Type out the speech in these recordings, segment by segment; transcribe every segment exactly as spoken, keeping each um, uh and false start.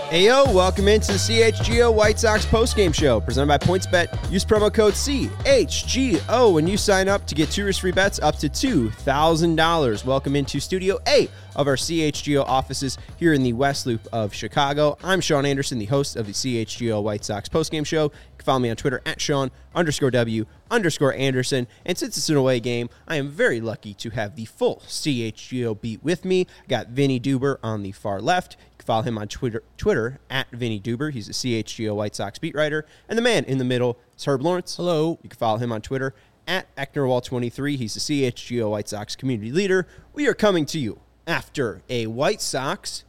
Ayo, welcome into the C H G O White Sox postgame show presented by PointsBet. Use promo code C H G O when you sign up to get two risk-free bets up to two thousand dollars. Welcome into Studio A of our C H G O offices here in the West Loop of Chicago. I'm Sean Anderson, the host of the C H G O White Sox postgame show. You can follow me on Twitter at Sean underscore W underscore Anderson. And since it's an away game, I am very lucky to have the full C H G O beat with me. Got Vinny Duber on the far left. Follow him on Twitter, Twitter at Vinny Duber. He's a C H G O White Sox beat writer. And the man in the middle is Herb Lawrence. Hello. You can follow him on Twitter at Ecknerwall twenty-three. He's the C H G O White Sox community leader. We are coming to you after a White Sox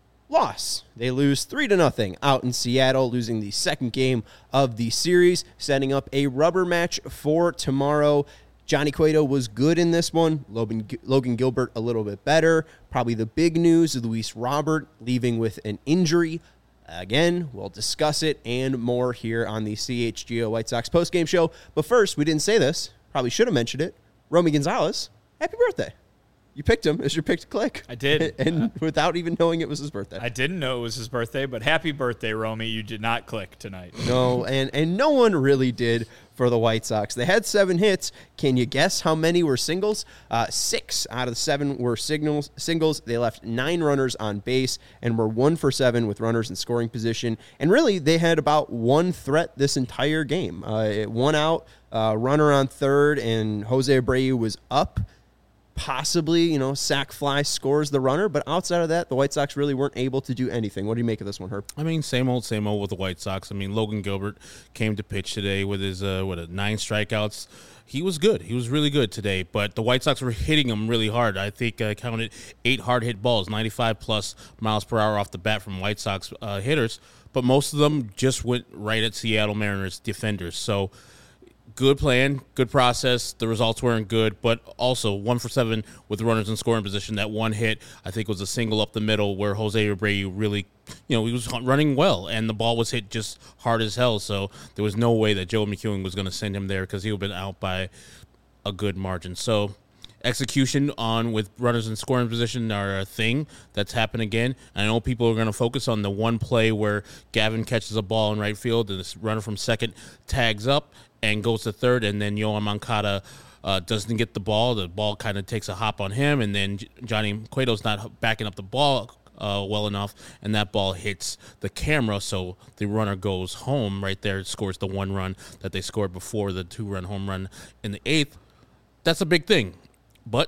loss. They lose three to nothing out in Seattle, losing the second game of the series, setting up a rubber match for tomorrow. Johnny Cueto was good in this one. Logan, Logan Gilbert a little bit better. Probably the big news, Luis Robert leaving with an injury. Again, we'll discuss it and more here on the C H G O White Sox postgame show. But first, we didn't say this. Probably should have mentioned it. Romy Gonzalez, happy birthday. You picked him as your pick to click. I did. And uh, without even knowing it was his birthday. I didn't know it was his birthday, but happy birthday, Romy. You did not click tonight. No, and, and no one really did for the White Sox. They had seven hits. Can you guess how many were singles? Uh, six out of the seven were signals, singles. They left nine runners on base and were one for seven with runners in scoring position. And really, they had about one threat this entire game. Uh, one out, uh, runner on third, and Jose Abreu was up. Possibly, you know, sac fly scores the runner, but outside of that, the White Sox really weren't able to do anything. What do you make of this one, Herb? I mean, same old, same old with the White Sox. I mean, Logan Gilbert came to pitch today with his, uh, what, nine strikeouts. He was good. He was really good today, but the White Sox were hitting him really hard. I think I counted eight hard hit balls, ninety-five plus miles per hour off the bat from White Sox uh, hitters, but most of them just went right at Seattle Mariners defenders. So, good plan, good process. The results weren't good, but also one for seven with runners in scoring position. That one hit, I think, was a single up the middle where Jose Abreu really, you know, he was running well, and the ball was hit just hard as hell. So there was no way that Joe McEwing was going to send him there because he would have been out by a good margin. So execution on with runners in scoring position are a thing that's happened again. I know people are going to focus on the one play where Gavin catches a ball in right field and this runner from second tags up and goes to third, and then Yoan Moncada uh, doesn't get the ball. The ball kind of takes a hop on him, and then Johnny Cueto's not backing up the ball uh, well enough, and that ball hits the camera, so the runner goes home right there, scores the one run that they scored before the two-run home run in the eighth. That's a big thing, but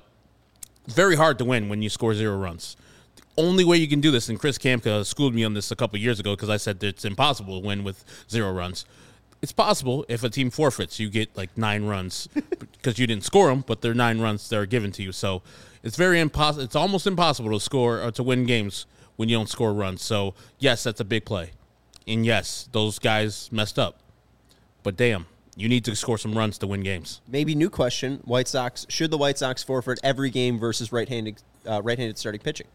very hard to win when you score zero runs. The only way you can do this, and Chris Kamka schooled me on this a couple years ago because I said that it's impossible to win with zero runs. It's possible if a team forfeits, you get like nine runs because you didn't score them, but they're nine runs that are given to you. So it's very impossible. It's almost impossible to score or to win games when you don't score runs. So yes, that's a big play, and yes, those guys messed up. But damn, you need to score some runs to win games. Maybe new question: White Sox should the White Sox forfeit every game versus right-handed uh, right-handed starting pitching?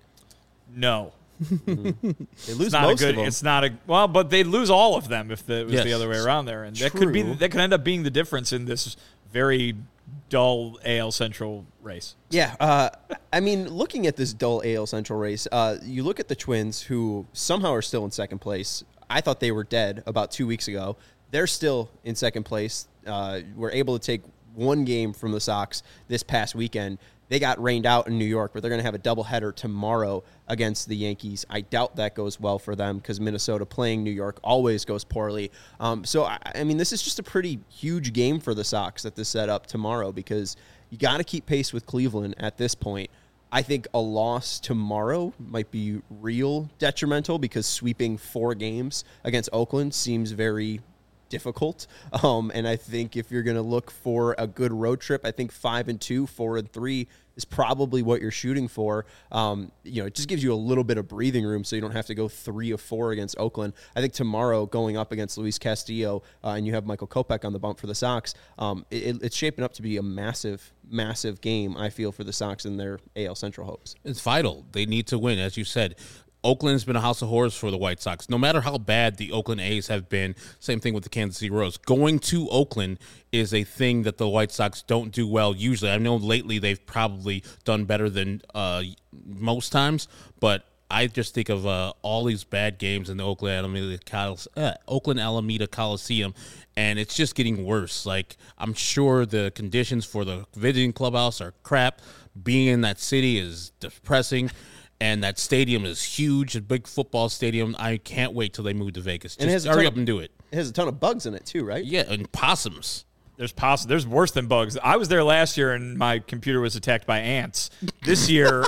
No. Mm-hmm. They lose it's not most a good, of them. It's not a well, but they lose all of them if the, it was Yes. the other way around there, and that True. could be that could end up being the difference in this very dull A L Central race. Yeah, uh, I mean, looking at this dull A L Central race, uh, you look at the Twins, who somehow are still in second place. I thought they were dead about two weeks ago. They're still in second place. Uh, were able to take one game from the Sox this past weekend. They got rained out in New York, but they're going to have a doubleheader tomorrow against the Yankees. I doubt that goes well for them because Minnesota playing New York always goes poorly. Um, so, I, I mean, this is just a pretty huge game for the Sox that this set up tomorrow because you got to keep pace with Cleveland at this point. I think a loss tomorrow might be real detrimental because sweeping four games against Oakland seems very difficult. Um, and I think if you're going to look for a good road trip, I think five and two, four and three is probably what you're shooting for. Um, you know, it just gives you a little bit of breathing room so you don't have to go three of four against Oakland. I think tomorrow going up against Luis Castillo uh, and you have Michael Kopech on the bump for the Sox, um, it, it's shaping up to be a massive, massive game, I feel, for the Sox and their A L Central hopes. It's vital. They need to win, as you said. Oakland's been a house of horrors for the White Sox. No matter how bad the Oakland A's have been, same thing with the Kansas City Royals. Going to Oakland is a thing that the White Sox don't do well usually. I know lately they've probably done better than uh, most times, but I just think of uh, all these bad games in the Oakland Alameda, Col- uh, Oakland Alameda Coliseum, and it's just getting worse. Like, I'm sure the conditions for the visiting clubhouse are crap. Being in that city is depressing. And that stadium is huge, a big football stadium. I can't wait till they move to Vegas. Just And it has a hurry ton up of- and do it. It has a ton of bugs in it too, right? Yeah, and possums. There's poss- There's worse than bugs. I was there last year, and my computer was attacked by ants. This year,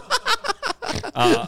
uh,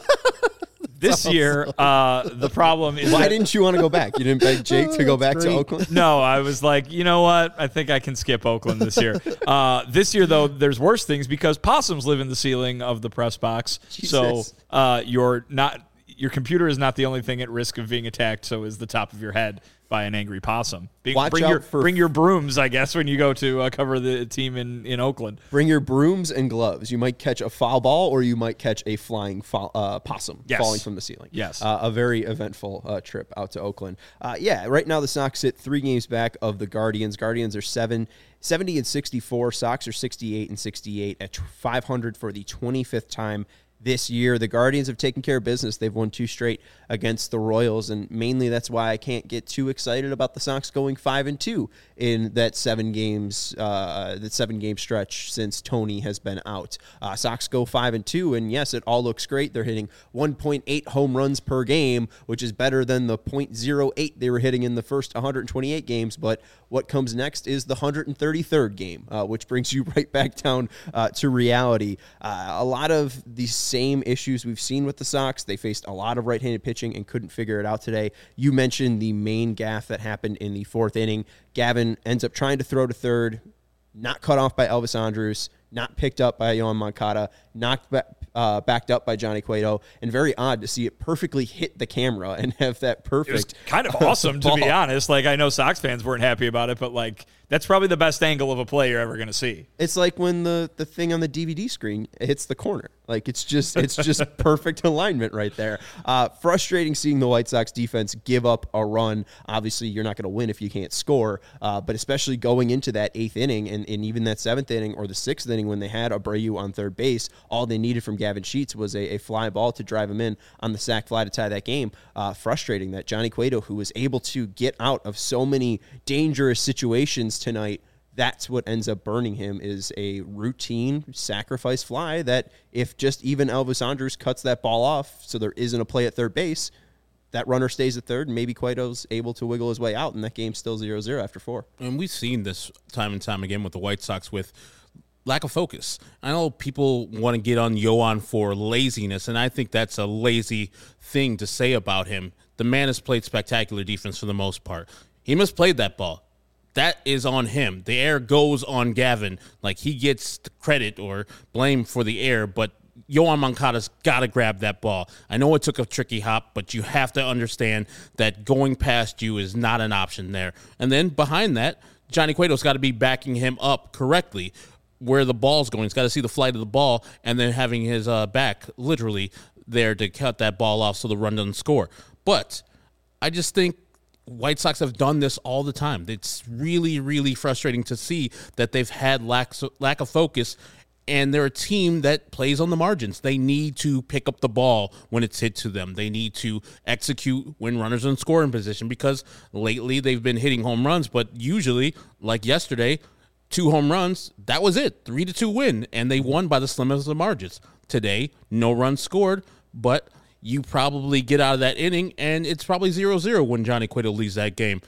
this year, uh, the problem is Why that- didn't you want to go back? You didn't beg Jake to go back to Oakland? No, I was like, you know what? I think I can skip Oakland this year. Uh, this year, though, there's worse things because possums live in the ceiling of the press box. So Jesus. uh, you're not. Your computer is not the only thing at risk of being attacked. So is the top of your head by an angry possum. Be, Watch bring out your for- bring your brooms, I guess, when you go to uh, cover the team in, in Oakland. Bring your brooms and gloves. You might catch a foul ball, or you might catch a flying fo- uh, possum Yes. falling from the ceiling. Yes. uh, a very eventful uh, trip out to Oakland. Uh, yeah, right now the Sox sit three games back of the Guardians. Guardians are seven, seventy and sixty-four. Sox are sixty-eight and sixty-eight at five hundred for the twenty-fifth time this year. The Guardians have taken care of business. They've won two straight against the Royals, and mainly that's why I can't get too excited about the Sox going five and two in that seven games, uh, that seven game stretch since Tony has been out. Uh, Sox go five and two, and yes, it all looks great. They're hitting one point eight home runs per game, which is better than the point oh eight they were hitting in the first one hundred twenty-eight games. But what comes next is the one hundred thirty-third game, uh, which brings you right back down uh, to reality. Uh, a lot of these same issues we've seen with the Sox. They faced a lot of right-handed pitching and couldn't figure it out today. You mentioned the main gaffe that happened in the fourth inning. Gavin ends up trying to throw to third, not cut off by Elvis Andrus, not picked up by Yohan Moncada, knocked back, uh, backed up by Johnny Cueto, and very odd to see it perfectly hit the camera and have that perfect. It was kind of awesome, to be ball. honest. Like, I know Sox fans weren't happy about it, but, like, that's probably the best angle of a play you're ever going to see. It's like when the, the thing on the D V D screen hits the corner. Like, it's just it's just perfect alignment right there. Uh, frustrating seeing the White Sox defense give up a run. Obviously, you're not going to win if you can't score, uh, but especially going into that eighth inning and, and even that seventh inning or the sixth inning when they had Abreu on third base, all they needed from Gavin Sheets was a, a fly ball to drive him in on the sac fly to tie that game. Uh, frustrating that Johnny Cueto, who was able to get out of so many dangerous situations tonight, that's what ends up burning him is a routine sacrifice fly that if just even Elvis Andrus cuts that ball off so there isn't a play at third base, that runner stays at third and maybe Cueto's able to wiggle his way out and that game's still zero zero after four. And we've seen this time and time again with the White Sox with lack of focus. I know people want to get on Yohan for laziness, and I think that's a lazy thing to say about him. The man has played spectacular defense for the most part. He misplayed that ball. That is on him. The air goes on Gavin. Like, he gets the credit or blame for the air, but Yohan Moncada's got to grab that ball. I know it took a tricky hop, but you have to understand that going past you is not an option there. And then behind that, Johnny Cueto's got to be backing him up correctly where the ball's going. He's got to see the flight of the ball and then having his uh, back literally there to cut that ball off so the run doesn't score. But I just think White Sox have done this all the time. It's really, really frustrating to see that they've had lack, lack of focus, and they're a team that plays on the margins. They need to pick up the ball when it's hit to them. They need to execute when runners are in scoring position because lately they've been hitting home runs, but usually, like yesterday, two home runs, that was it. Three to two win, and they won by the slimmest of margins. Today, no runs scored, but you probably get out of that inning, and it's probably zero zero when Johnny Cueto leaves that game.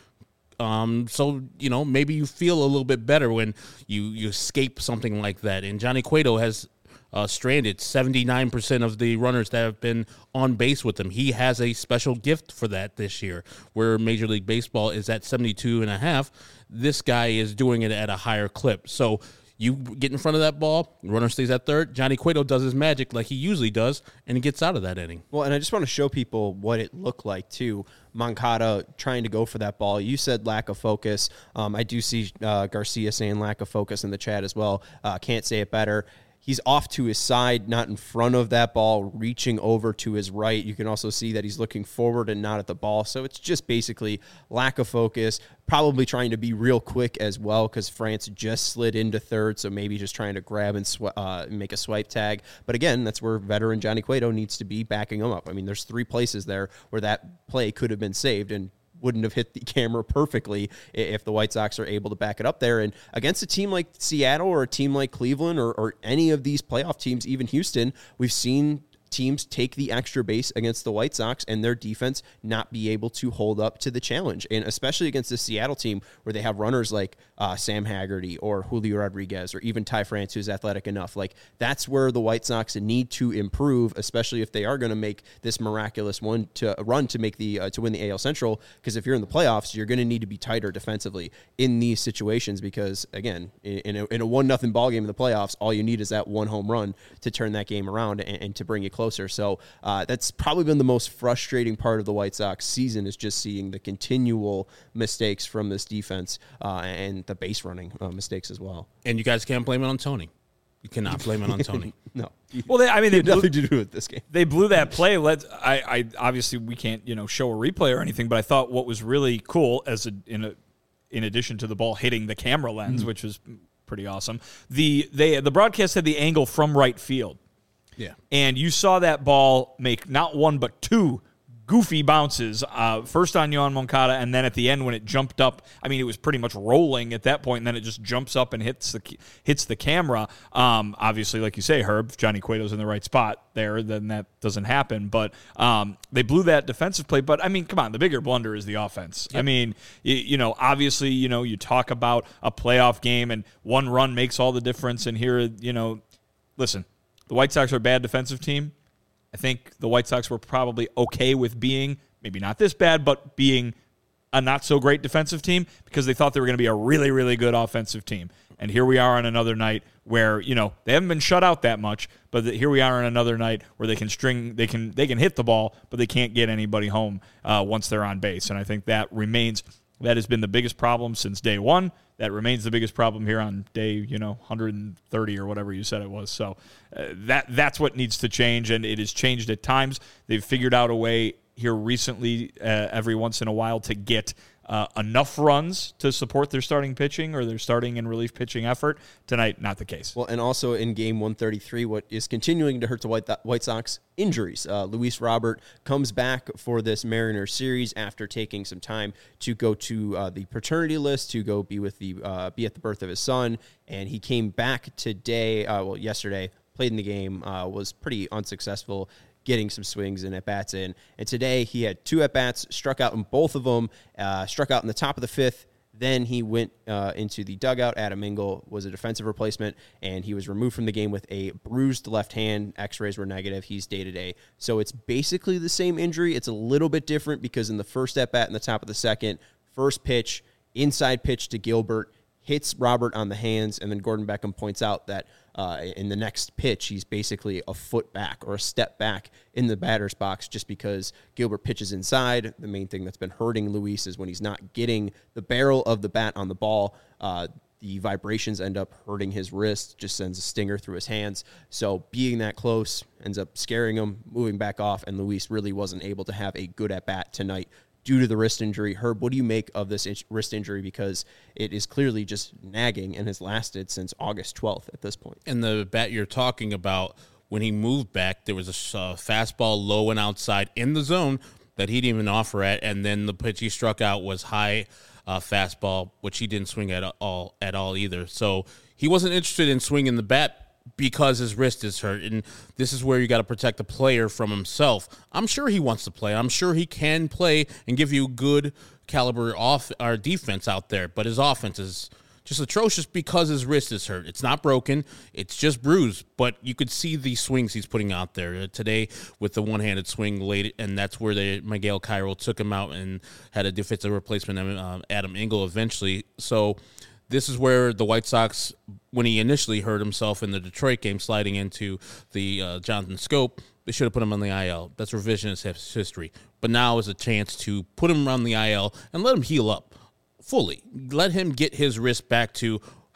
Um, so, you know, maybe you feel a little bit better when you, you escape something like that. And Johnny Cueto has uh, stranded seventy-nine percent of the runners that have been on base with him. He has a special gift for that this year, where Major League Baseball is at seventy-two and a half. This guy is doing it at a higher clip. So you get in front of that ball, runner stays at third, Johnny Cueto does his magic like he usually does, and he gets out of that inning. Well, and I just want to show people what it looked like, too. Moncada trying to go for that ball. You said lack of focus. Um, I do see uh, Garcia saying lack of focus in the chat as well. Uh, can't say it better. he's off to his side, not in front of that ball, reaching over to his right. You can also see that he's looking forward and not at the ball. So it's just basically lack of focus, probably trying to be real quick as well because France just slid into third, so maybe just trying to grab and sw- uh, make a swipe tag. But again, that's where veteran Johnny Cueto needs to be backing him up. I mean, there's three places there where that play could have been saved and wouldn't have hit the camera perfectly if the White Sox are able to back it up there. And against a team like Seattle or a team like Cleveland or, or any of these playoff teams, even Houston, we've seen teams take the extra base against the White Sox and their defense not be able to hold up to the challenge. And especially against the Seattle team where they have runners like uh, Sam Haggerty or Julio Rodriguez or even Ty France, who's athletic enough. Like that's where the White Sox need to improve, especially if they are going to make this miraculous one to run to make the uh, to win the A L Central. Because if you're in the playoffs, you're going to need to be tighter defensively in these situations. Because again, in a, in a one nothing ball game in the playoffs, all you need is that one home run to turn that game around and, and to bring you closer. So uh, that's probably been the most frustrating part of the White Sox season, is just seeing the continual mistakes from this defense uh, and the base running uh, mistakes as well. And you guys can't blame it on Tony. You cannot blame it on Tony. No. Well, they, I mean, they had blew, nothing to do with this game. They blew that play. Let's. I, I obviously we can't you know show a replay or anything, but I thought what was really cool, as a, in a, in addition to the ball hitting the camera lens, mm. which was pretty awesome. The they the broadcast had the angle from right field. Yeah. And you saw that ball make not one but two goofy bounces, uh, first on Yohan Moncada, and then at the end when it jumped up, I mean, it was pretty much rolling at that point, and then it just jumps up and hits the hits the camera. Um, obviously, like you say, Herb, if Johnny Cueto's in the right spot there, then that doesn't happen. But um, they blew that defensive play. But, I mean, come on, the bigger blunder is the offense. Yep. I mean, you, you know, obviously, you know, you talk about a playoff game, and one run makes all the difference, and here, you know, listen, the White Sox are a bad defensive team. I think the White Sox were probably okay with being, maybe not this bad, but being a not-so-great defensive team because they thought they were going to be a really, really good offensive team. And here we are on another night where, you know, they haven't been shut out that much, but the, here we are on another night where they can string, they can they can hit the ball, but they can't get anybody home uh, once they're on base. And I think that remains, that has been the biggest problem since day one. That remains the biggest problem here on day, you know, one hundred thirty or whatever you said it was. So uh, that that's what needs to change, and it has changed at times. They've figured out a way here recently, uh, every once in a while, to get uh, enough runs to support their starting pitching or their starting and relief pitching effort. Tonight, not the case. Well, and also in game one thirty-three, what is continuing to hurt the White, White Sox, injuries. Uh, Luis Robert comes back for this Mariners series after taking some time to go to uh, the paternity list, to go be with the uh, be at the birth of his son, and he came back today, uh, well, yesterday, played in the game, uh, was pretty unsuccessful getting some swings and at-bats in. And today he had two at-bats, struck out in both of them, uh, struck out in the top of the fifth. Then he went uh, into the dugout. Adam Engel was a defensive replacement, and he was removed from the game with a bruised left hand. X-rays were negative. He's day-to-day. So it's basically the same injury. It's a little bit different because in the first at-bat in the top of the second, first pitch, inside pitch to Gilbert, hits Robert on the hands, and then Gordon Beckham points out that uh, in the next pitch, he's basically a foot back or a step back in the batter's box just because Gilbert pitches inside. The main thing that's been hurting Luis is when he's not getting the barrel of the bat on the ball, uh, the vibrations end up hurting his wrist, just sends a stinger through his hands. So being that close ends up scaring him, moving back off, and Luis really wasn't able to have a good at-bat tonight due to the wrist injury. Herb, what do you make of this wrist injury? Because it is clearly just nagging and has lasted since August twelfth at this point. And the bat you're talking about, when he moved back, there was a uh, fastball low and outside in the zone that he didn't even offer at, and then the pitch he struck out was high uh, fastball, which he didn't swing at all at all either. So he wasn't interested in swinging the bat because his wrist is hurt, and this is where you got to protect the player from himself. I'm sure he wants to play. I'm sure he can play and give you good caliber off our defense out there, but his offense is just atrocious because his wrist is hurt. It's not broken. It's just bruised, but you could see the swings he's putting out there. Uh, today with the one-handed swing late, and that's where they, Miguel Cairo took him out and had a defensive replacement, uh, Adam Engel, eventually. So this is where the White Sox, when he initially hurt himself in the Detroit game, sliding into the uh, Jonathan Scope, they should have put him on the I L. That's revisionist history. But now is a chance to put him on the I L and let him heal up fully. Let him get his wrist back to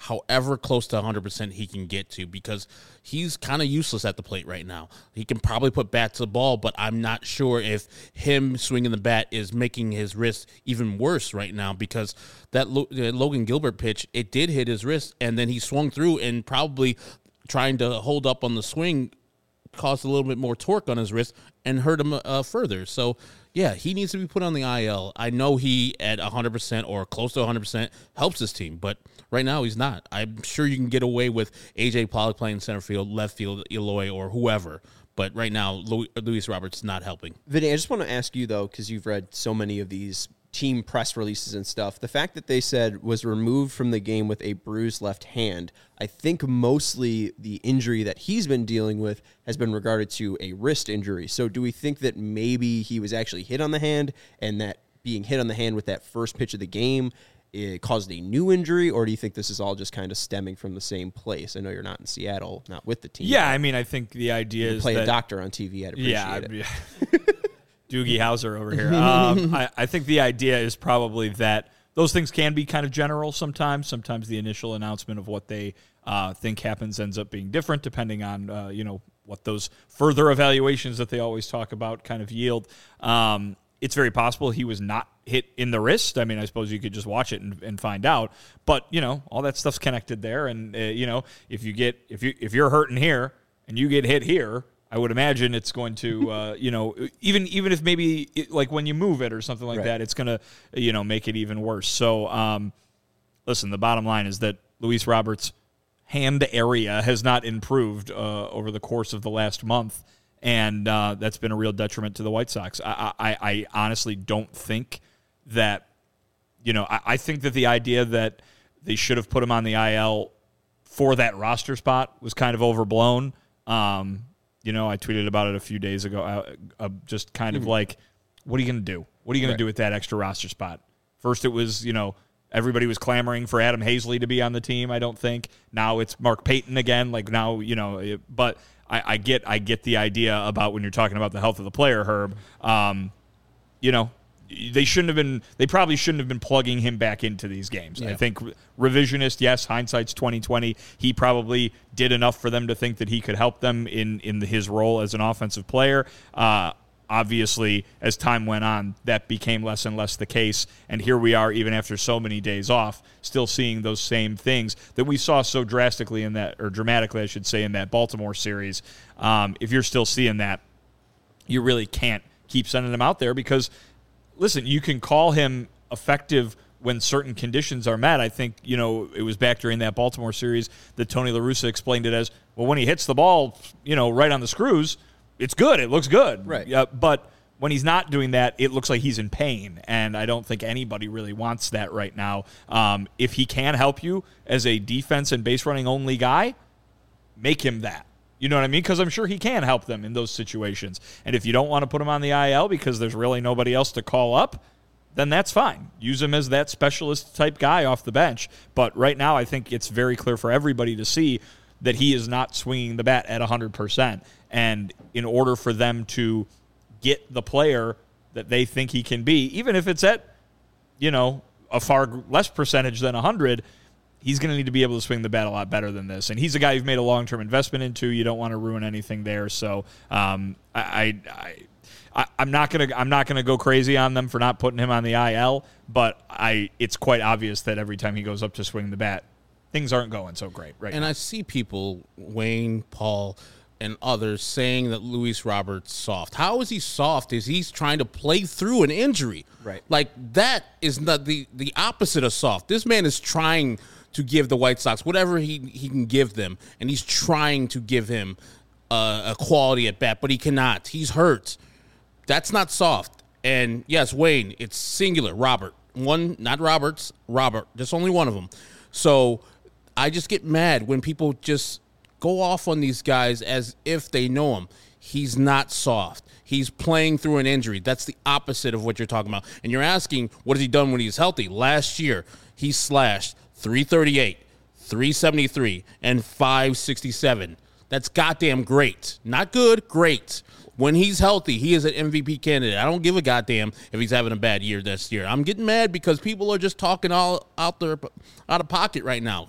however close to one hundred percent he can get to, because he's kind of useless at the plate right now. He can probably put bat to the ball, but I'm not sure if him swinging the bat is making his wrist even worse right now, because that Lo- uh, Logan Gilbert pitch, it did hit his wrist, and then he swung through and probably trying to hold up on the swing caused a little bit more torque on his wrist and hurt him uh, further. So, yeah, he needs to be put on the I L. I know he, at one hundred percent or close to one hundred percent, helps his team, but right now he's not. I'm sure you can get away with A J Pollock playing center field, left field, Eloy, or whoever, but right now Lu- Luis Roberts not helping. Vinny, I just want to ask you, though, because you've read so many of these team press releases and stuff, the fact that they said was removed from the game with a bruised left hand, I think mostly the injury that he's been dealing with has been regarded to a wrist injury. So do we think that maybe he was actually hit on the hand, and that being hit on the hand with that first pitch of the game, it caused a new injury, or do you think this is all just kind of stemming from the same place? I know you're not in Seattle, not with the team. Yeah, I mean, I think the idea is play that, a doctor on T V. I'd appreciate yeah, it. Yeah, Doogie Howser over here. Um, I, I think the idea is probably that those things can be kind of general sometimes. Sometimes the initial announcement of what they uh, think happens ends up being different depending on, uh, you know, what those further evaluations that they always talk about kind of yield. Um, it's very possible he was not hit in the wrist. I mean, I suppose you could just watch it and, and find out. But, you know, all that stuff's connected there. And, uh, you know, if you get if you if you're hurting here and you get hit here, I would imagine it's going to, uh, you know, even even if maybe it, like when you move it or something like right. that, it's going to, you know, make it even worse. So, um, listen, the bottom line is that Luis Roberts' hand area has not improved uh, over the course of the last month, and uh, that's been a real detriment to the White Sox. I, I, I honestly don't think that, you know, I, I think that the idea that they should have put him on the I L for that roster spot was kind of overblown. Um, You know, I tweeted about it a few days ago, uh, uh, just kind of mm-hmm. like, what are you going to do? What are you going right. to do with that extra roster spot? First, it was, you know, everybody was clamoring for Adam Hazley to be on the team, I don't think. Now it's Mark Payton again. Like, now, you know, it, but I, I get I get the idea about when you're talking about the health of the player, Herb. Um, you know, they shouldn't have been, they probably shouldn't have been plugging him back into these games. Yeah. I think revisionist, yes, hindsight's twenty twenty. He probably did enough for them to think that he could help them in, in his role as an offensive player. Uh, obviously, as time went on, that became less and less the case. And here we are, even after so many days off, still seeing those same things that we saw so drastically in that, or dramatically, I should say, in that Baltimore series. Um, if you're still seeing that, you really can't keep sending him out there because, listen, you can call him effective when certain conditions are met. I think, you know, it was back during that Baltimore series that Tony La Russa explained it as, well, when he hits the ball, you know, right on the screws, it's good. It looks good. Right. Uh, but when he's not doing that, it looks like he's in pain, and I don't think anybody really wants that right now. Um, if he can help you as a defense and base running only guy, make him that. You know what I mean? Because I'm sure he can help them in those situations. And if you don't want to put him on the I L because there's really nobody else to call up, then that's fine. Use him as that specialist type guy off the bench. But right now, I think it's very clear for everybody to see that he is not swinging the bat at one hundred percent. And in order for them to get the player that they think he can be, even if it's at, you know, a far less percentage than one hundred, he's going to need to be able to swing the bat a lot better than this. And he's a guy you've made a long-term investment into. You don't want to ruin anything there. So um, I, I, I, I'm not going to I'm not going to go crazy on them for not putting him on the I L. But I it's quite obvious that every time he goes up to swing the bat, things aren't going so great right and now. I see people, Wayne, Paul, and others saying that Luis Roberts soft. How is he soft? Is he's trying to play through an injury? Right. Like, that is not the, the opposite of soft. This man is trying to give the White Sox whatever he, he can give them, and he's trying to give him uh, a quality at bat, but he cannot. He's hurt. That's not soft. And yes, Wayne, it's singular, Robert. One, not Roberts, Robert. There's only one of them. So I just get mad when people just go off on these guys as if they know him. He's not soft. He's playing through an injury. That's the opposite of what you're talking about. And you're asking, what has he done when he's healthy? Last year, he slashed three thirty-eight, three seventy-three, and five sixty-seven. That's goddamn great. Not good, great. When he's healthy, he is an M V P candidate. I don't give a goddamn if he's having a bad year this year. I'm getting mad because people are just talking all out there, out of pocket right now.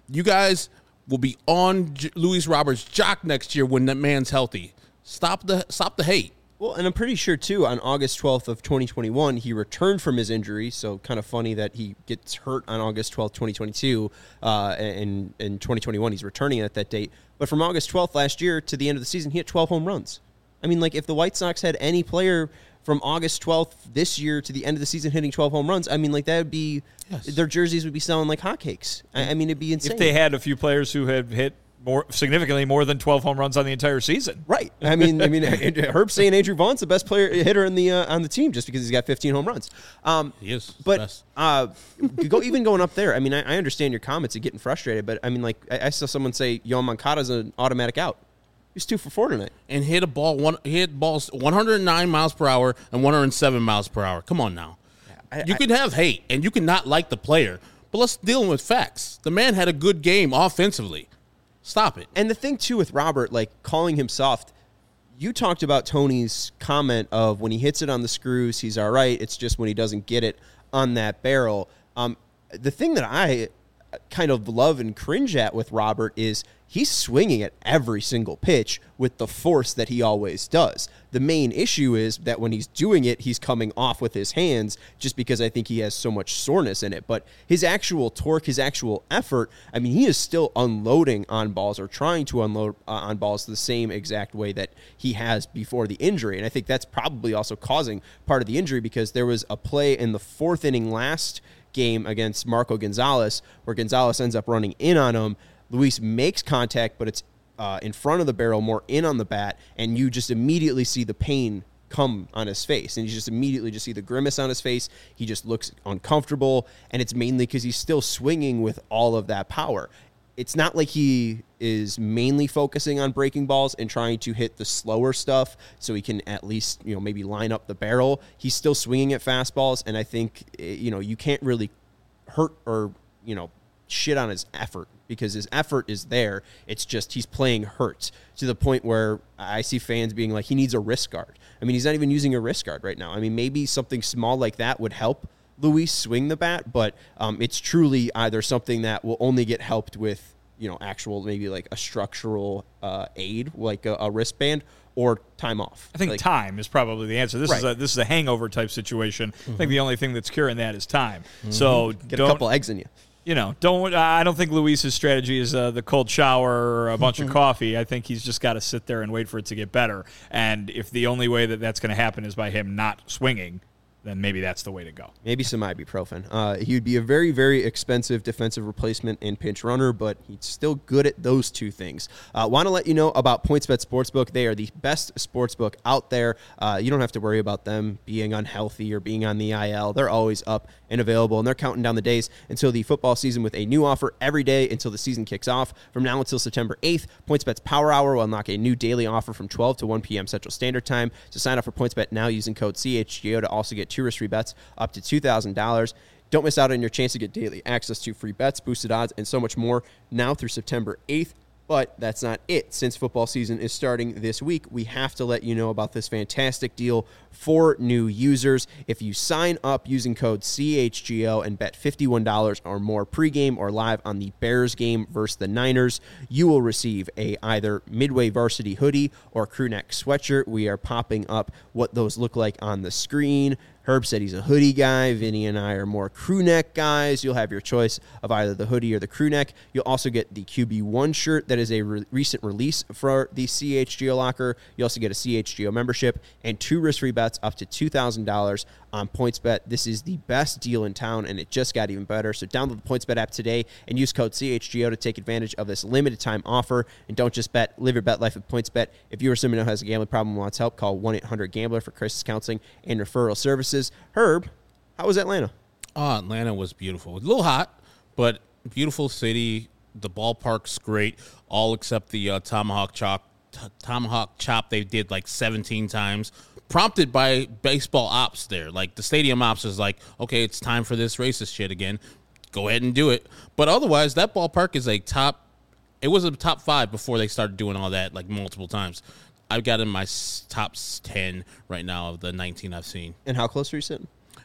You guys will be on J- Luis Roberts' jock next year when that man's healthy. Stop the stop the hate. Well, and I'm pretty sure, too, on August twelfth of twenty twenty-one, he returned from his injury, so kind of funny that he gets hurt on August twelfth, twenty twenty-two, uh, and in twenty twenty-one he's returning at that date. But from August twelfth last year to the end of the season, he hit twelve home runs. I mean, like, if the White Sox had any player from August twelfth this year to the end of the season hitting twelve home runs, I mean, like, that would be, yes. their jerseys would be selling like hotcakes. I, I mean, it'd be insane. If they had a few players who had hit more significantly more than twelve home runs on the entire season. Right. I mean, I mean, Herb's saying Andrew Vaughn's the best player hitter in the uh, on the team just because he's got fifteen home runs. Um, he is. But uh, go even going up there. I mean, I, I understand your comments and getting frustrated, but I mean, like I, I saw someone say Yoan Moncada's an automatic out. He's two for four tonight and hit a ball. One he hit balls one hundred nine miles per hour and one hundred seven miles per hour. Come on now. I, you I, can have hate and you can not like the player, but let's deal with facts. The man had a good game offensively. Stop it. And the thing, too, with Robert, like, calling him soft, you talked about Tony's comment of when he hits it on the screws, he's all right. It's just when he doesn't get it on that barrel. Um, the thing that I kind of love and cringe at with Robert is he's swinging at every single pitch with the force that he always does. The main issue is that when he's doing it, he's coming off with his hands just because I think he has so much soreness in it. But his actual torque, his actual effort, I mean, he is still unloading on balls or trying to unload uh, on balls the same exact way that he has before the injury. And I think that's probably also causing part of the injury because there was a play in the fourth inning last game against Marco Gonzalez where Gonzalez ends up running in on him. Luis makes contact, but it's uh, in front of the barrel, more in on the bat, and you just immediately see the pain come on his face. And you just immediately just see the grimace on his face. He just looks uncomfortable, and it's mainly because he's still swinging with all of that power. It's not like he is mainly focusing on breaking balls and trying to hit the slower stuff so he can at least, you know, maybe line up the barrel. He's still swinging at fastballs, and I think, you know, you can't really hurt or, you know, shit on his effort because his effort is there. It's just he's playing hurt to the point where I see fans being like, he needs a wrist guard. I mean, he's not even using a wrist guard right now. I mean, maybe something small like that would help Luis swing the bat, but um, it's truly either something that will only get helped with, you know, actual maybe like a structural uh, aid, like a, a wristband, or time off. I think like, time is probably the answer. This right. is a this is a hangover type situation. Mm-hmm. I think the only thing that's curing that is time. Mm-hmm. So get a couple eggs in you. You know, don't. I don't think Luis's strategy is uh, the cold shower or a bunch of coffee. I think he's just got to sit there and wait for it to get better. And if the only way that that's going to happen is by him not swinging, then maybe that's the way to go. Maybe some ibuprofen. Uh, he would be a very, very expensive defensive replacement and pinch runner, but he's still good at those two things. Uh, want to let you know about PointsBet Sportsbook. They are the best sportsbook out there. Uh, you don't have to worry about them being unhealthy or being on the I L. They're always up and available, and they're counting down the days until the football season with a new offer every day until the season kicks off. From now until September eighth, PointsBet's Power Hour will unlock a new daily offer from twelve to one p.m. Central Standard Time. So sign up for PointsBet now using code C H G O to also get two risk-free bets up to two thousand dollars. Don't miss out on your chance to get daily access to free bets, boosted odds, and so much more now through September eighth. But that's not it. Since football season is starting this week, we have to let you know about this fantastic deal for new users. If you sign up using code C H G O and bet fifty-one dollars or more pregame or live on the Bears game versus the Niners, you will receive a either Midway varsity hoodie or crew neck sweatshirt. We are popping up what those look like on the screen. Herb said he's a hoodie guy. Vinny and I are more crew neck guys. You'll have your choice of either the hoodie or the crew neck. You'll also get the Q B one shirt that is a re- recent release for the C H G O locker. You also get a C H G O membership and two risk-free bets up to two thousand dollars on PointsBet. This is the best deal in town, and it just got even better. So download the PointsBet app today and use code C H G O to take advantage of this limited time offer. And don't just bet, live your bet life with PointsBet. If you or someone who has a gambling problem and wants help, call one eight hundred gambler for crisis counseling and referral services. Herb, how was Atlanta? Oh, Atlanta was beautiful. A little hot, but beautiful city. The ballpark's great, all except the uh, tomahawk chop. T- tomahawk chop they did like seventeen times, prompted by baseball ops there. Like the stadium ops is like, okay, it's time for this racist shit again. Go ahead and do it. But otherwise, that ballpark is a top. It was a top five before they started doing all that like multiple times. I've got in my top ten right now of the nineteen I've seen. And how close are you sitting?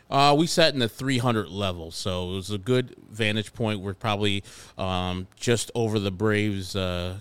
Uh, we sat in the three hundred level, so it was a good vantage point. We're probably um, just over the Braves uh,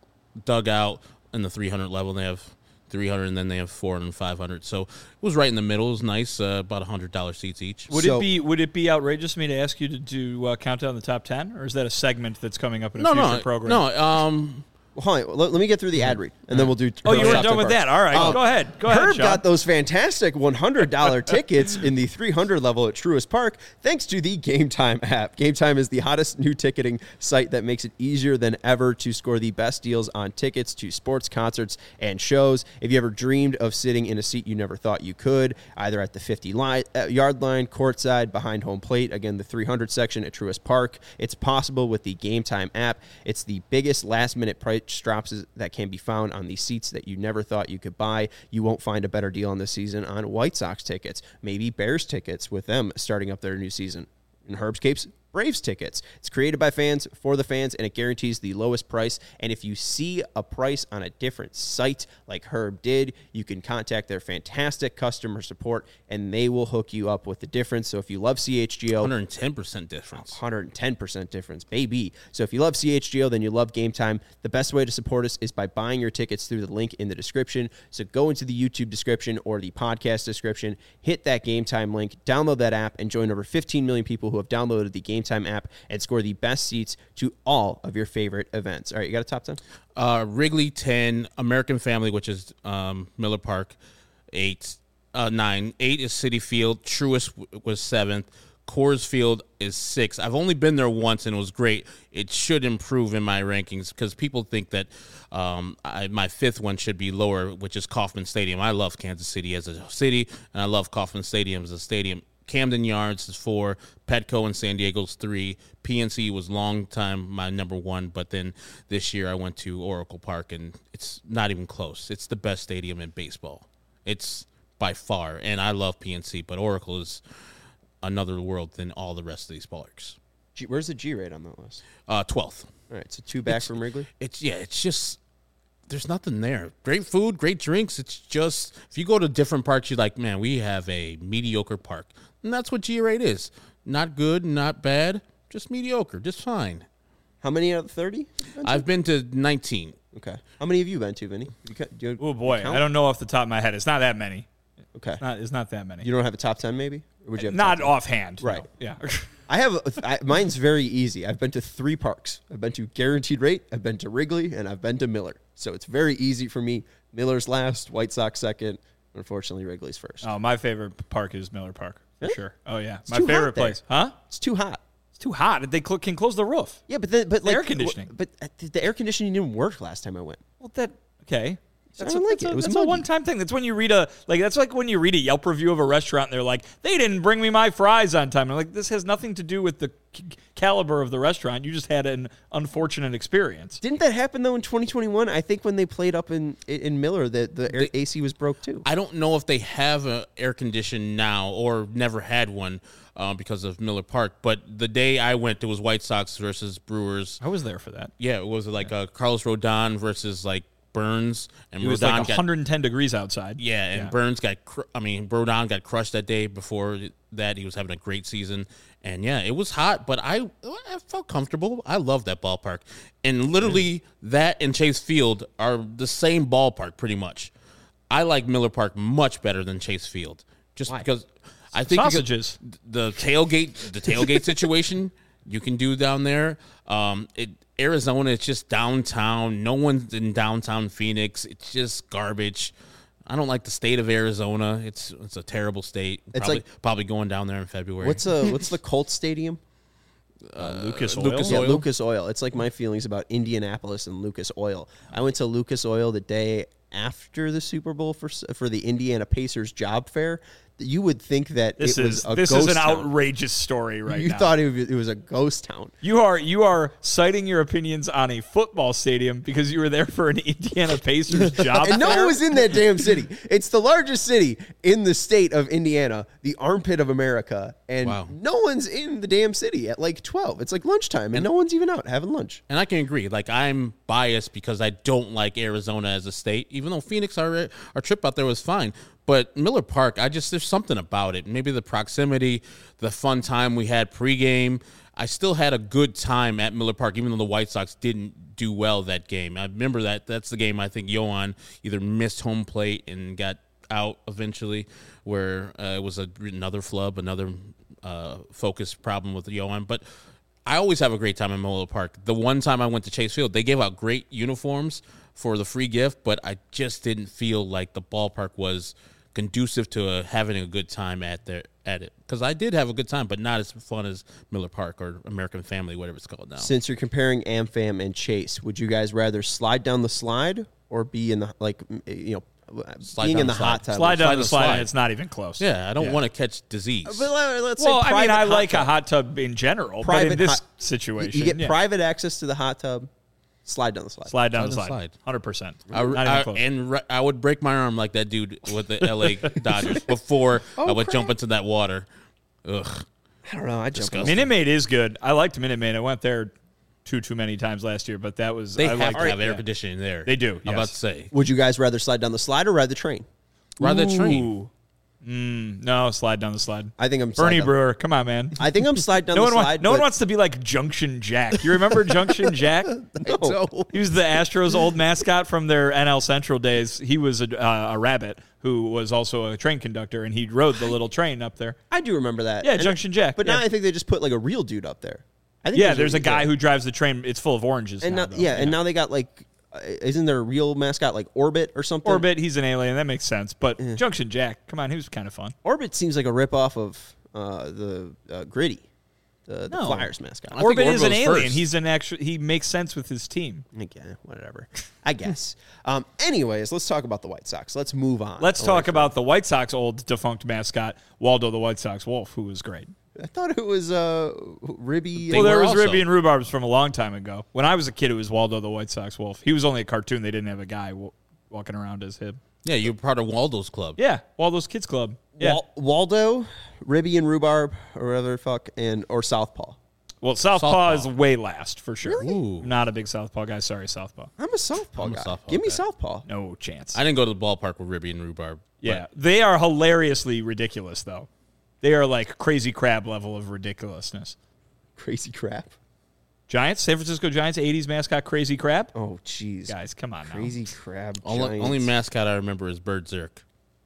dugout in the three hundred level. They have three hundred, and then they have four hundred and five hundred. So it was right in the middle. It was nice, uh, about one hundred dollars seats each. Would So- it be Would it be outrageous of me to ask you to do uh, count down the top ten, or is that a segment that's coming up in a No, future no, program? no. Um, Well, hold on. Let, let me get through the ad read, and then we'll do. Oh, you were top done ten with parts. that. All right, Um, go ahead. Go ahead, Herb Sean. got those fantastic one hundred dollars tickets in the three hundred level at Truist Park thanks to the Game Time app. Game Time is the hottest new ticketing site that makes it easier than ever to score the best deals on tickets to sports, concerts, and shows. If you ever dreamed of sitting in a seat you never thought you could, either at the fifty-yard line, courtside, behind home plate, again, the three hundred section at Truist Park, it's possible with the Game Time app. It's the biggest last-minute price drops that can be found on the seats that you never thought you could buy. You won't find a better deal on this season on White Sox tickets, maybe Bears tickets with them starting up their new season. In Herb's case, Braves tickets. It's created by fans for the fans, and it guarantees the lowest price. And if you see a price on a different site like Herb did, you can contact their fantastic customer support, and they will hook you up with the difference. So if you love C H G O, one hundred ten percent difference. one hundred ten percent difference, baby. So if you love C H G O, then you love Game Time. The best way to support us is by buying your tickets through the link in the description. So go into the YouTube description or the podcast description, hit that Game Time link, download that app, and join over fifteen million people who have downloaded the Game Time app and score the best seats to all of your favorite events. All right, you got a top ten? Uh, Wrigley ten, American Family, which is um, Miller Park, eight, uh, nine. Eight is Citi Field. Truist w- was seventh. Coors Field is six. I've only been there once, and it was great. It should improve in my rankings because people think that um, I, my fifth one should be lower, which is Kauffman Stadium. I love Kansas City as a city, and I love Kauffman Stadium as a stadium. Camden Yards is four, Petco and San Diego's three. P N C was long time my number one, but then this year I went to Oracle Park, and it's not even close. It's the best stadium in baseball. It's by far, and I love P N C, but Oracle is another world than all the rest of these parks. G- where's the G rate on that list? Uh, twelfth. All right, so two back from Wrigley. It's yeah, it's just there's nothing there. Great food, great drinks. It's just if you go to different parks, you're like, man, we have a mediocre park, and that's what G rate is. Not good, not bad, just mediocre, just fine. How many out of thirty? I've been to nineteen. Okay. How many have you been to, Vinny? You ca- do you Oh boy, count? I don't know off the top of my head. It's not that many. Okay. It's not, it's not that many. You don't have a top ten, maybe? Or would you have a Not top ten? offhand. Right. No. Yeah. I have. I, mine's very easy. I've been to three parks. I've been to Guaranteed Rate. I've been to Wrigley, and I've been to Miller. So it's very easy for me. Miller's last, White Sox second. Unfortunately, Wrigley's first. Oh, my favorite park is Miller Park for Really? sure. Oh yeah, It's my too hot favorite there. place. Huh? It's too hot. It's too hot. They cl- can close the roof. Yeah, but the, but like air conditioning. But uh, the air conditioning didn't work last time I went. Well, that okay. That's, I a, don't like that's, it. a, It was that's a muggy. one-time thing. That's when you read a like. That's like when you read a Yelp review of a restaurant. And they're like, they didn't bring me my fries on time. I'm like, this has nothing to do with the c- caliber of the restaurant. You just had an unfortunate experience. Didn't that happen though in twenty twenty-one? I think when they played up in in Miller, that the air, A C was broke too. I don't know if they have an air condition now or never had one uh, because of Miller Park. But the day I went, it was White Sox versus Brewers. I was there for that. Yeah, it was like uh, Carlos Rodon versus like Burns, and It was Rodon like got one hundred ten degrees outside. yeah, and Yeah. Burns got cr- I mean Rodon got crushed that day. Before that, he was having a great season, and yeah, it was hot, but I I felt comfortable. I love that ballpark, and literally that and Chase Field are the same ballpark pretty much. I like Miller Park much better than Chase Field, just Why? because I think because Sausages. the tailgate the tailgate situation you can do down there. Um, it Arizona, it's just downtown. No one's in downtown Phoenix. It's just garbage. I don't like the state of Arizona. It's it's a terrible state. It's probably, like- probably going down there in February. What's uh what's the Colts stadium? Uh, Lucas Oil. Lucas Yeah, Oil? Lucas Oil. It's like my feelings about Indianapolis and Lucas Oil. I went to Lucas Oil the day after the Super Bowl for for the Indiana Pacers job fair. You would think that This it was is a this ghost is an town. outrageous story right You now. thought it was, it was a ghost town. You are you are citing your opinions on a football stadium because you were there for an Indiana Pacers job And no fair? one was in that damn city. It's the largest city in the state of Indiana, the armpit of America, and Wow. no one's in the damn city at like twelve. It's like lunchtime, and no one's even out having lunch. And I can agree. Like, I'm biased because I don't like Arizona as a state, even though Phoenix, our, our trip out there was fine. But Miller Park, I just, there's something about it. Maybe the proximity, the fun time we had pregame. I still had a good time at Miller Park, even though the White Sox didn't do well that game. I remember that. That's the game I think Yohan either missed home plate and got out eventually, where uh, it was a, another flub, another uh, focus problem with Yohan. But I always have a great time at Miller Park. The one time I went to Chase Field, they gave out great uniforms for the free gift, but I just didn't feel like the ballpark was conducive to uh, having a good time at there at it, because I did have a good time, but not as fun as Miller Park or American Family, whatever it's called now. Since you're comparing AmFam and Chase, would you guys rather slide down the slide or be in the like you know Slide being down in the the hot slide. tub? Slide down Slide the the slide, slide. and it's not even close. Yeah, I don't Yeah. want to catch disease. But let- let's Well, say I mean, private I hot like tub. a hot tub in general, but Private in this hot- situation, You get yeah. private access to the hot tub. Slide down the slide. slide down the Slide slide, down the slide. hundred percent. I, Not even I- close. and re- I would break my arm like that dude with the L A Dodgers before Oh, I would crap. jump into that water. Ugh. I don't know. I just Disgusting. Minute Maid is good. I liked Minute Maid. I went there too too many times last year, but that was They I have liked to it. have air Yeah. conditioning there. They do, I'm about yes. to say. Would you guys rather slide down the slide or ride the train? Ride that train. Ooh. Mm, no, slide down the slide. I think I'm slide Bernie down- Brewer, come on, man. I think I'm slide down No the one, slide. wa- no one but- wants to be like Junction Jack. You remember Junction Jack? No. He was the Astros' old mascot from their N L Central days. He was a, uh, a rabbit who was also a train conductor, and he rode the little train up there. I do remember that. Yeah, And- Junction Jack. But yeah. now I think they just put like a real dude up there. I think yeah, there's a guy yeah. who drives the train. It's full of oranges. and now, now, though. yeah, and now they got like, uh, isn't there a real mascot like Orbit or something? Orbit, he's an alien. That makes sense. But Junction Jack, come on, he was kind of fun. Orbit seems like a ripoff of uh, the uh, Gritty, the, the No. Flyers mascot. I think Orbit is Orbit an was alien. first. He's an actual. He makes sense with his team. Again, whatever. I guess. Um, anyways, let's talk about the White Sox. Let's move on. Let's away talk from- about the White Sox old defunct mascot, Waldo the White Sox Wolf, who was great. I thought it was uh, Ribby. They Well, there were was also- Ribby and Rhubarbs from a long time ago. When I was a kid, it was Waldo the White Sox Wolf. He was only a cartoon. They didn't have a guy w- walking around as him. Yeah, you're part of Waldo's club. Yeah, Waldo's Kids Club. Yeah. Wal- Waldo, Ribby and Rhubarb, or whatever the fuck, and or Southpaw. well, Southpaw, Southpaw. is way last for sure. Really? Ooh. I'm not a big Southpaw guy. Sorry, Southpaw. I'm a Southpaw I'm a guy. Southpaw Give me guy. Southpaw. No chance. I didn't go to the ballpark with Ribby and Rhubarb. yeah, they are hilariously ridiculous, though. They are like crazy crab level of ridiculousness. Crazy crap. Giants, San Francisco Giants, eighties mascot Crazy Crab. Oh, jeez. Guys, come on now. Crazy crab. Only, Giants. only mascot I remember is Bird Zirk.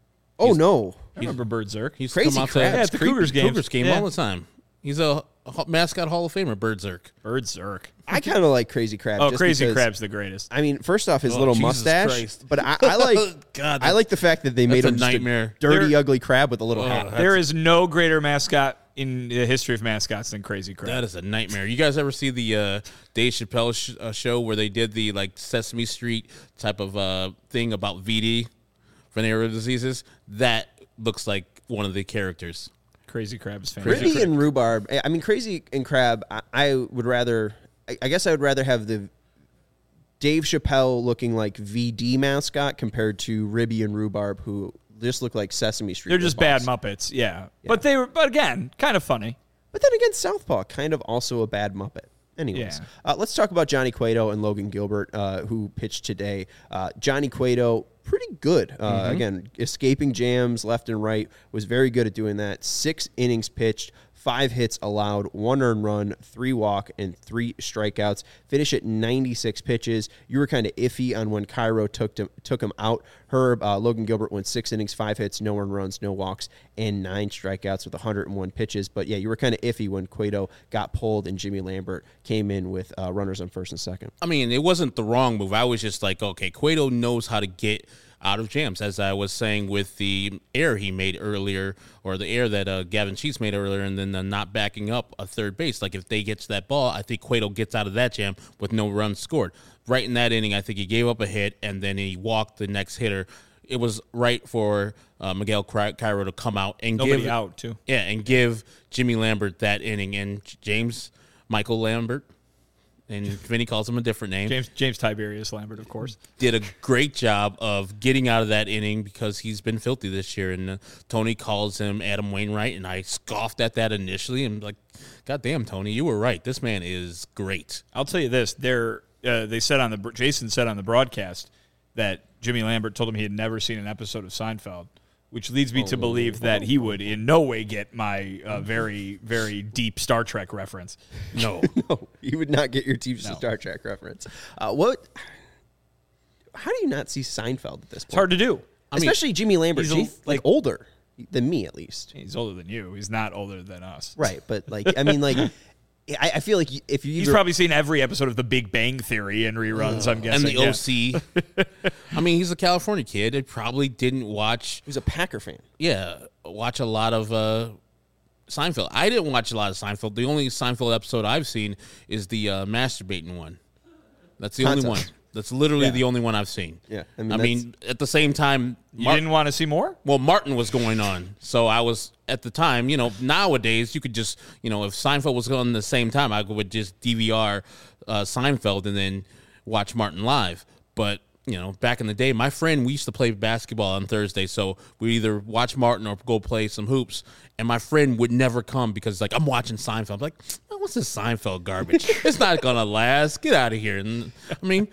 Oh no. I remember Bird Zirk. He's Crazy come out Crab. to Yeah, at the Cougars games. Cougars game Yeah. all the time. He's a ho- mascot Hall of Famer, Bird Zirk. Bird Zirk. I kind of like Crazy Crab. Oh, just Crazy because- Crab's the greatest. I mean, first off, his Oh, little Jesus mustache. Christ. But I, I like. God, I like the fact that they made that's a him just nightmare. dirty, They're- ugly crab with a little Ugh. hat. There is no greater mascot in the history of mascots than Crazy Crab. That is a nightmare. You guys ever see the uh, Dave Chappelle sh- uh, show where they did the like Sesame Street type of uh, thing about V D, venereal diseases? That looks like one of the characters. Crazy Crab is fantastic. Ribby and Rhubarb. I mean, Crazy and Crab. I, I would rather. I, I guess I would rather have the Dave Chappelle looking like V D mascot compared to Ribby and Rhubarb, who just look like Sesame Street. They're just bad ripoffs. Muppets, yeah. But they were, but again, kind of funny. But then again, Southpaw, kind of also a bad Muppet. Anyways, Yeah. uh, let's talk about Johnny Cueto and Logan Gilbert, uh, who pitched today. Uh, Johnny Cueto, pretty good. Uh, Mm-hmm. Again, escaping jams left and right, was very good at doing that. Six innings pitched, five hits allowed, one earned run, three walk, and three strikeouts. Finish at ninety-six pitches. You were kind of iffy on when Cairo took him, took him out. Herb, uh, Logan Gilbert went six innings, five hits, no earned runs, no walks, and nine strikeouts with one hundred one pitches. But yeah, you were kind of iffy when Cueto got pulled and Jimmy Lambert came in with uh, runners on first and second. I mean, it wasn't the wrong move. I was just like, okay, Cueto knows how to get out of jams, as I was saying with the error he made earlier, or the error that uh, Gavin Sheets made earlier, and then uh, not backing up a third base. Like if they get to that ball, I think Cueto gets out of that jam with no runs scored. Right in that inning, I think he gave up a hit, and then he walked the next hitter. It was right for uh, Miguel Cairo to come out and Nobody give out, too. Yeah, and give Jimmy Lambert that inning, and James Michael Lambert, and Vinny calls him a different name, James James Tiberius Lambert, of course. did a great job of getting out of that inning because he's been filthy this year. And uh, Tony calls him Adam Wainwright, and I scoffed at that initially. And like, God damn, Tony, you were right. This man is great. I'll tell you this: they're uh, they said on the Jason said on the broadcast that Jimmy Lambert told him he had never seen an episode of Seinfeld. which leads me to believe that he would in no way get my uh, very, very deep Star Trek reference. No. No, you would not get your deep No. Star Trek reference. Uh, what? How do you not see Seinfeld at this point? It's hard to do. I mean, Especially Jimmy Lambert. he's a- He's like older than me, at least. He's older than you. He's not older than us. Right, but like, I mean, like, I, I feel like if you He's either, probably seen every episode of The Big Bang Theory and reruns, I'm And guessing. the yeah. O C. I mean, he's a California kid. It probably didn't watch, who's a Packer fan. yeah, watch a lot of uh, Seinfeld. I didn't watch a lot of Seinfeld. The only Seinfeld episode I've seen is the uh, masturbating one. That's the only one. Concept. That's literally Yeah. the only one I've seen. Yeah, I I mean, mean, at the same time, You Mar- didn't want to see more? well, Martin was going on, so I was at the time. You know, nowadays you could just, you know, if Seinfeld was on the same time, I would just D V R uh, Seinfeld and then watch Martin live. But you know, back in the day, my friend, we used to play basketball on Thursday, so we either watch Martin or go play some hoops. And my friend would never come because like I'm watching Seinfeld. I'm like, oh, what's this Seinfeld garbage? It's not gonna last. Get out of here. And I mean,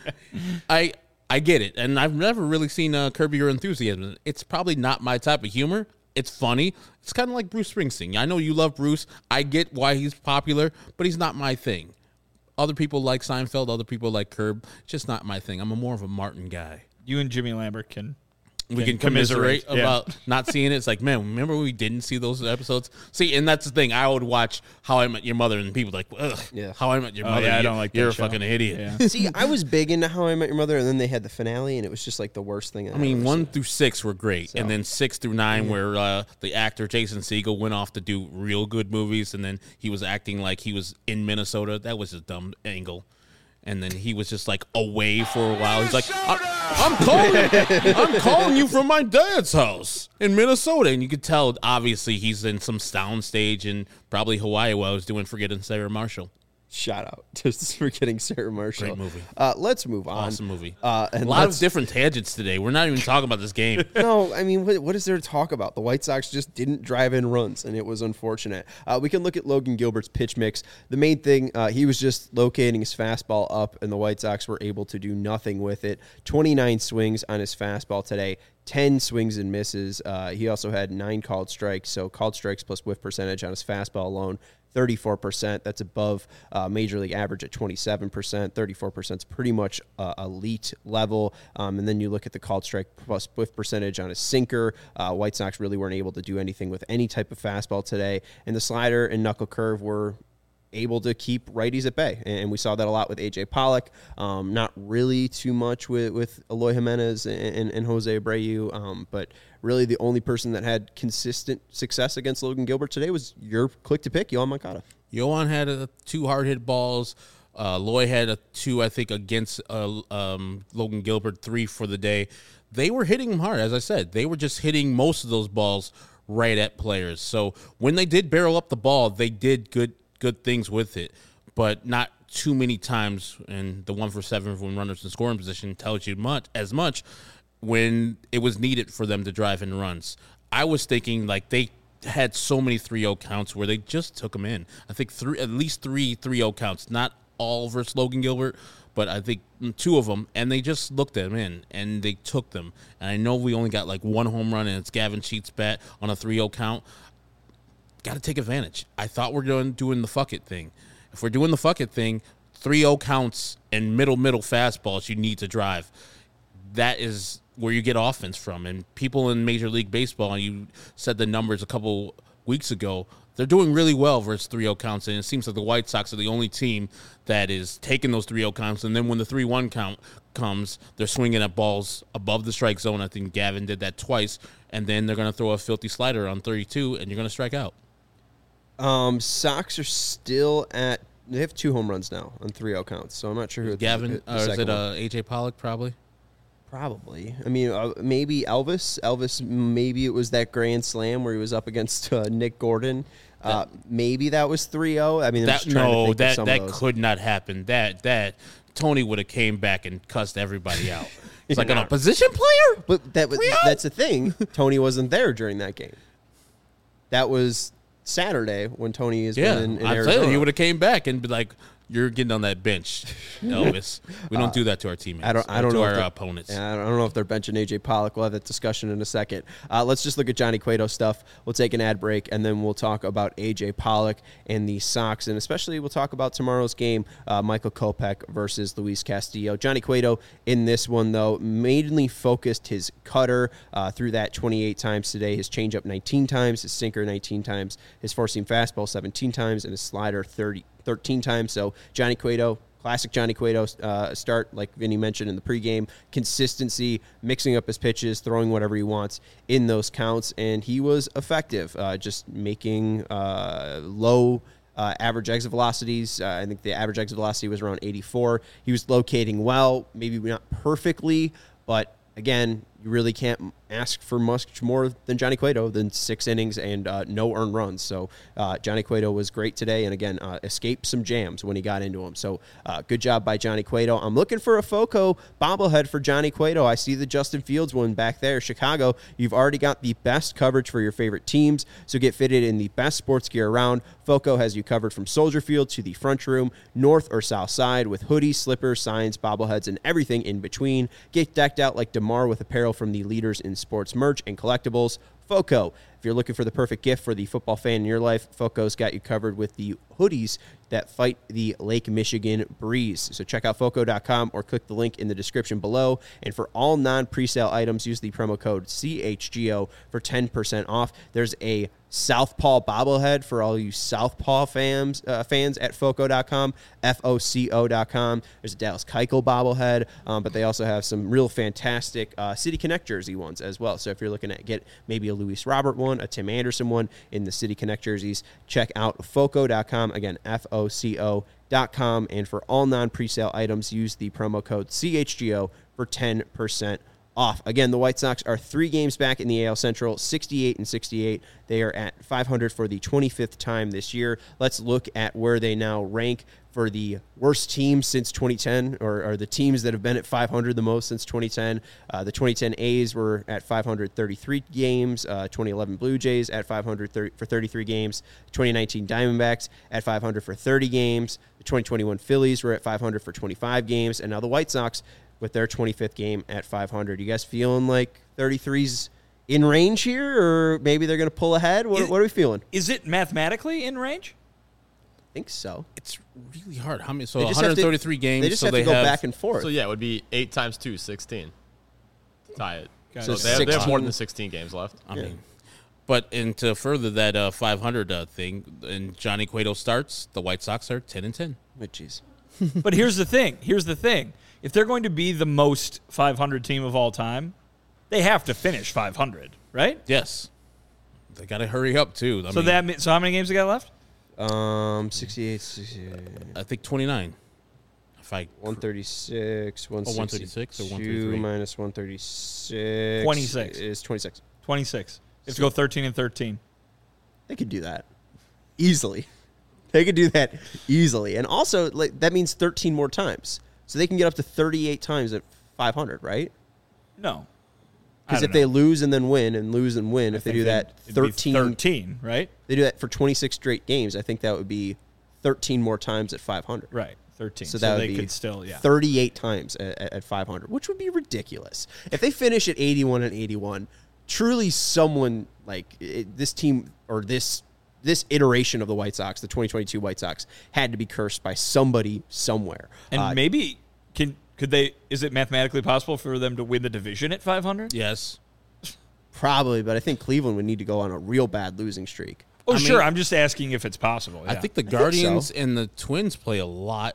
I. I get it, and I've never really seen uh, Curb Your Enthusiasm. It's probably not my type of humor. It's funny. It's kind of like Bruce Springsteen. I know you love Bruce. I get why he's popular, but he's not my thing. Other people like Seinfeld. Other people like Curb. It's just not my thing. I'm a more of a Martin guy. You and Jimmy Lambert can. We Can can commiserate, commiserate, yeah. about not seeing it. It's like, man, remember when we didn't see those episodes? See, and that's the thing. I would watch How I Met Your Mother, and people like, ugh, Yeah. How I Met Your Oh, Mother. yeah, I you- don't like that You're a show. fucking idiot. Yeah. See, I was big into How I Met Your Mother, and then they had the finale, and it was just like the worst thing. I mean, one through six were great, So- and then six through nine, where uh, the actor Jason Segel went off to do real good movies, and then he was acting like he was in Minnesota. That was a dumb angle. And then he was just like away for a while. He's like, I- I'm calling, I'm calling you from my dad's house in Minnesota, and you could tell obviously he's in some sound stage in probably Hawaii while he was doing Forgetting Sarah Marshall. Shout out just for getting Sarah Marshall. Great movie. Uh, let's move on. Awesome movie. Uh, and a lot let's- of different tangents today. We're not even talking about this game. No, I mean, what, what is there to talk about? The White Sox just didn't drive in runs, and it was unfortunate. Uh, we can look at Logan Gilbert's pitch mix. The main thing, uh, he was just locating his fastball up, and the White Sox were able to do nothing with it. twenty-nine swings on his fastball today, ten swings and misses. Uh, he also had nine called strikes, so called strikes plus whiff percentage on his fastball alone, thirty-four percent. That's above uh, Major League average at twenty-seven percent. thirty-four percent is pretty much uh, elite level. Um, and then you look at the called strike plus whiff percentage on his sinker. Uh, White Sox really weren't able to do anything with any type of fastball today. And the slider and knuckle curve were able to keep righties at bay. And we saw that a lot with A J Pollock. Um, not really too much with, with Eloy Jimenez and, and, and Jose Abreu. Um, but really the only person that had consistent success against Logan Gilbert today was your click to pick, Yohan Moncada. Yohan had a, two hard hit balls. Uh, Loy had a two, I think, against uh, um, Logan Gilbert, three for the day. They were hitting him hard, as I said. They were just hitting most of those balls right at players. So when they did barrel up the ball, they did good good things with it, but not too many times. And the one for seven when runners in scoring position tells you much as much when it was needed for them to drive in runs. I was thinking like they had so many three oh counts where they just took them in. I think three, at least three three oh counts, not all versus Logan Gilbert, but I think two of them, and they just looked at them in, and they took them. And I know we only got like one home run, and it's Gavin Sheets' bat on a three oh count. Got to take advantage. I thought we're doing doing the fuck it thing. If we're doing the fuck it thing, three oh counts and middle middle fastballs you need to drive. That is where you get offense from. And people in Major League Baseball, you said the numbers a couple weeks ago, they're doing really well versus three oh counts. And it seems like the White Sox are the only team that is taking those three oh counts. And then when the three one count comes, they're swinging at balls above the strike zone. I think Gavin did that twice. And then they're going to throw a filthy slider on thirty-two, and you're going to strike out. Um, Sox are still at, they have two home runs now on three oh counts, so I'm not sure who Gavin, the, the or is second it one. uh, A J Pollock probably? Probably. I mean, uh, maybe Elvis. Elvis, maybe it was that grand slam where he was up against uh, Nick Gordon. Uh, maybe that was three oh. I mean, I'm That, just trying to no, think of that some that of those. could not happen. That that Tony would have came back and cussed everybody out. It's like an opposition player. But that was, three oh? that's the thing. Tony wasn't there during that game. That was Saturday when Tony is Yeah, in, in I Arizona. tell you, he would have came back and be like, you're getting on that bench, Elvis. We don't do that to our teammates. I don't. I or don't to know our if they're- opponents. Yeah, I don't know if they're benching A J Pollock. We'll have that discussion in a second. Uh, let's just look at Johnny Cueto stuff. We'll take an ad break, and then we'll talk about A J Pollock and the Sox, and especially we'll talk about tomorrow's game, uh, Michael Kopech versus Luis Castillo. Johnny Cueto in this one, though, mainly focused his cutter uh, through that twenty-eight times today, his changeup nineteen times, his sinker nineteen times, his four-seam fastball seventeen times, and his slider thirty, thirteen times. So Johnny Cueto, classic Johnny Cueto uh, start, like Vinny mentioned in the pregame, consistency, mixing up his pitches, throwing whatever he wants in those counts, and he was effective, uh, just making uh, low uh, average exit velocities. Uh, I think the average exit velocity was around eighty-four. He was locating well, maybe not perfectly, but again, you really can't ask for much more than Johnny Cueto than six innings and uh, no earned runs. So uh, Johnny Cueto was great today, and again, uh, escaped some jams when he got into them. So uh, good job by Johnny Cueto. I'm looking for a FOCO bobblehead for Johnny Cueto. I see the Justin Fields one back there. Chicago, you've already got the best coverage for your favorite teams, so get fitted in the best sports gear around. FOCO has you covered from Soldier Field to the front room, north or south side, with hoodies, slippers, signs, bobbleheads, and everything in between. Get decked out like DeMar with apparel from the leaders in sports merch and collectibles. FOCO. If you're looking for the perfect gift for the football fan in your life, FOCO's got you covered with the hoodies that fight the Lake Michigan breeze. So check out foco dot com or click the link in the description below. And for all non-presale items, use the promo code C H G O for ten percent off. There's a Southpaw bobblehead for all you Southpaw fans uh, fans at foco dot com, F O C O dot com. There's a Dallas Keuchel bobblehead, um, but they also have some real fantastic uh, City Connect jersey ones as well. So if you're looking at get maybe a Luis Robert one, a Tim Anderson one in the City Connect jerseys, check out foco dot com. Again, F O C O dot com. And for all non-presale items, use the promo code C H G O for ten percent off. Again, the White Sox are three games back in the A L Central, sixty-eight and sixty-eight. They are at five hundred for the twenty-fifth time this year. Let's look at where they now rank for the worst teams since twenty ten, or, or the teams that have been at five hundred the most since twenty ten. Uh, the twenty ten A's were at five hundred thirty-three games. Uh, twenty eleven Blue Jays at five hundred for thirty-three games. twenty nineteen Diamondbacks at five hundred for thirty games. The twenty twenty-one Phillies were at five hundred for twenty-five games. And now the White Sox with their twenty-fifth game at five hundred. You guys feeling like thirty-three's in range here, or maybe they're going to pull ahead? What, Is- what are we feeling? Is it mathematically in range? I think so. It's really hard. How many? So They just have to- one hundred thirty-three games. They just so have they to go have, back and forth. So yeah, it would be eight times two, sixteen. To tie it. So So they have, they have more sixteen than sixteen games left. I Yeah. mean, but and to further that uh, five hundred uh, thing, and Johnny Cueto starts, the White Sox are ten and ten. Oh, jeez. But here's the thing. Here's the thing. If they're going to be the most five hundred team of all time, they have to finish five hundred, right? Yes, they got to hurry up too. I So mean, that mi- so how many games they got left? Um, sixty-eight, sixty-eight, I think twenty-nine. If I one thirty-six, one one thirty-six or one two thirty-three? minus one thirty-six. twenty-six. Is twenty-six. twenty-six. They have to go thirteen and thirteen. They could do that easily. They could do that easily. And also, like, that means thirteen more times. So they can get up to thirty-eight times at five hundred, right? No. Because if they lose and then win and lose and win, if they do that thirteen, thirteen, right? they do that for twenty-six straight games, I think that would be thirteen more times at five hundred. Right. thirteen. So So, that would they be could still, yeah. thirty-eight times at, at- at five hundred, which would be ridiculous. If they finish at eighty-one and eighty-one, truly someone like it, this team or this this iteration of the White Sox, the twenty twenty-two White Sox, had to be cursed by somebody somewhere. And Uh, maybe can could they is it mathematically possible for them to win the division at five hundred? yes, probably, but I think Cleveland would need to go on a real bad losing streak. Oh, I sure. mean- I'm just asking if it's possible. I yeah. think the so. Guardians and the Twins play a lot,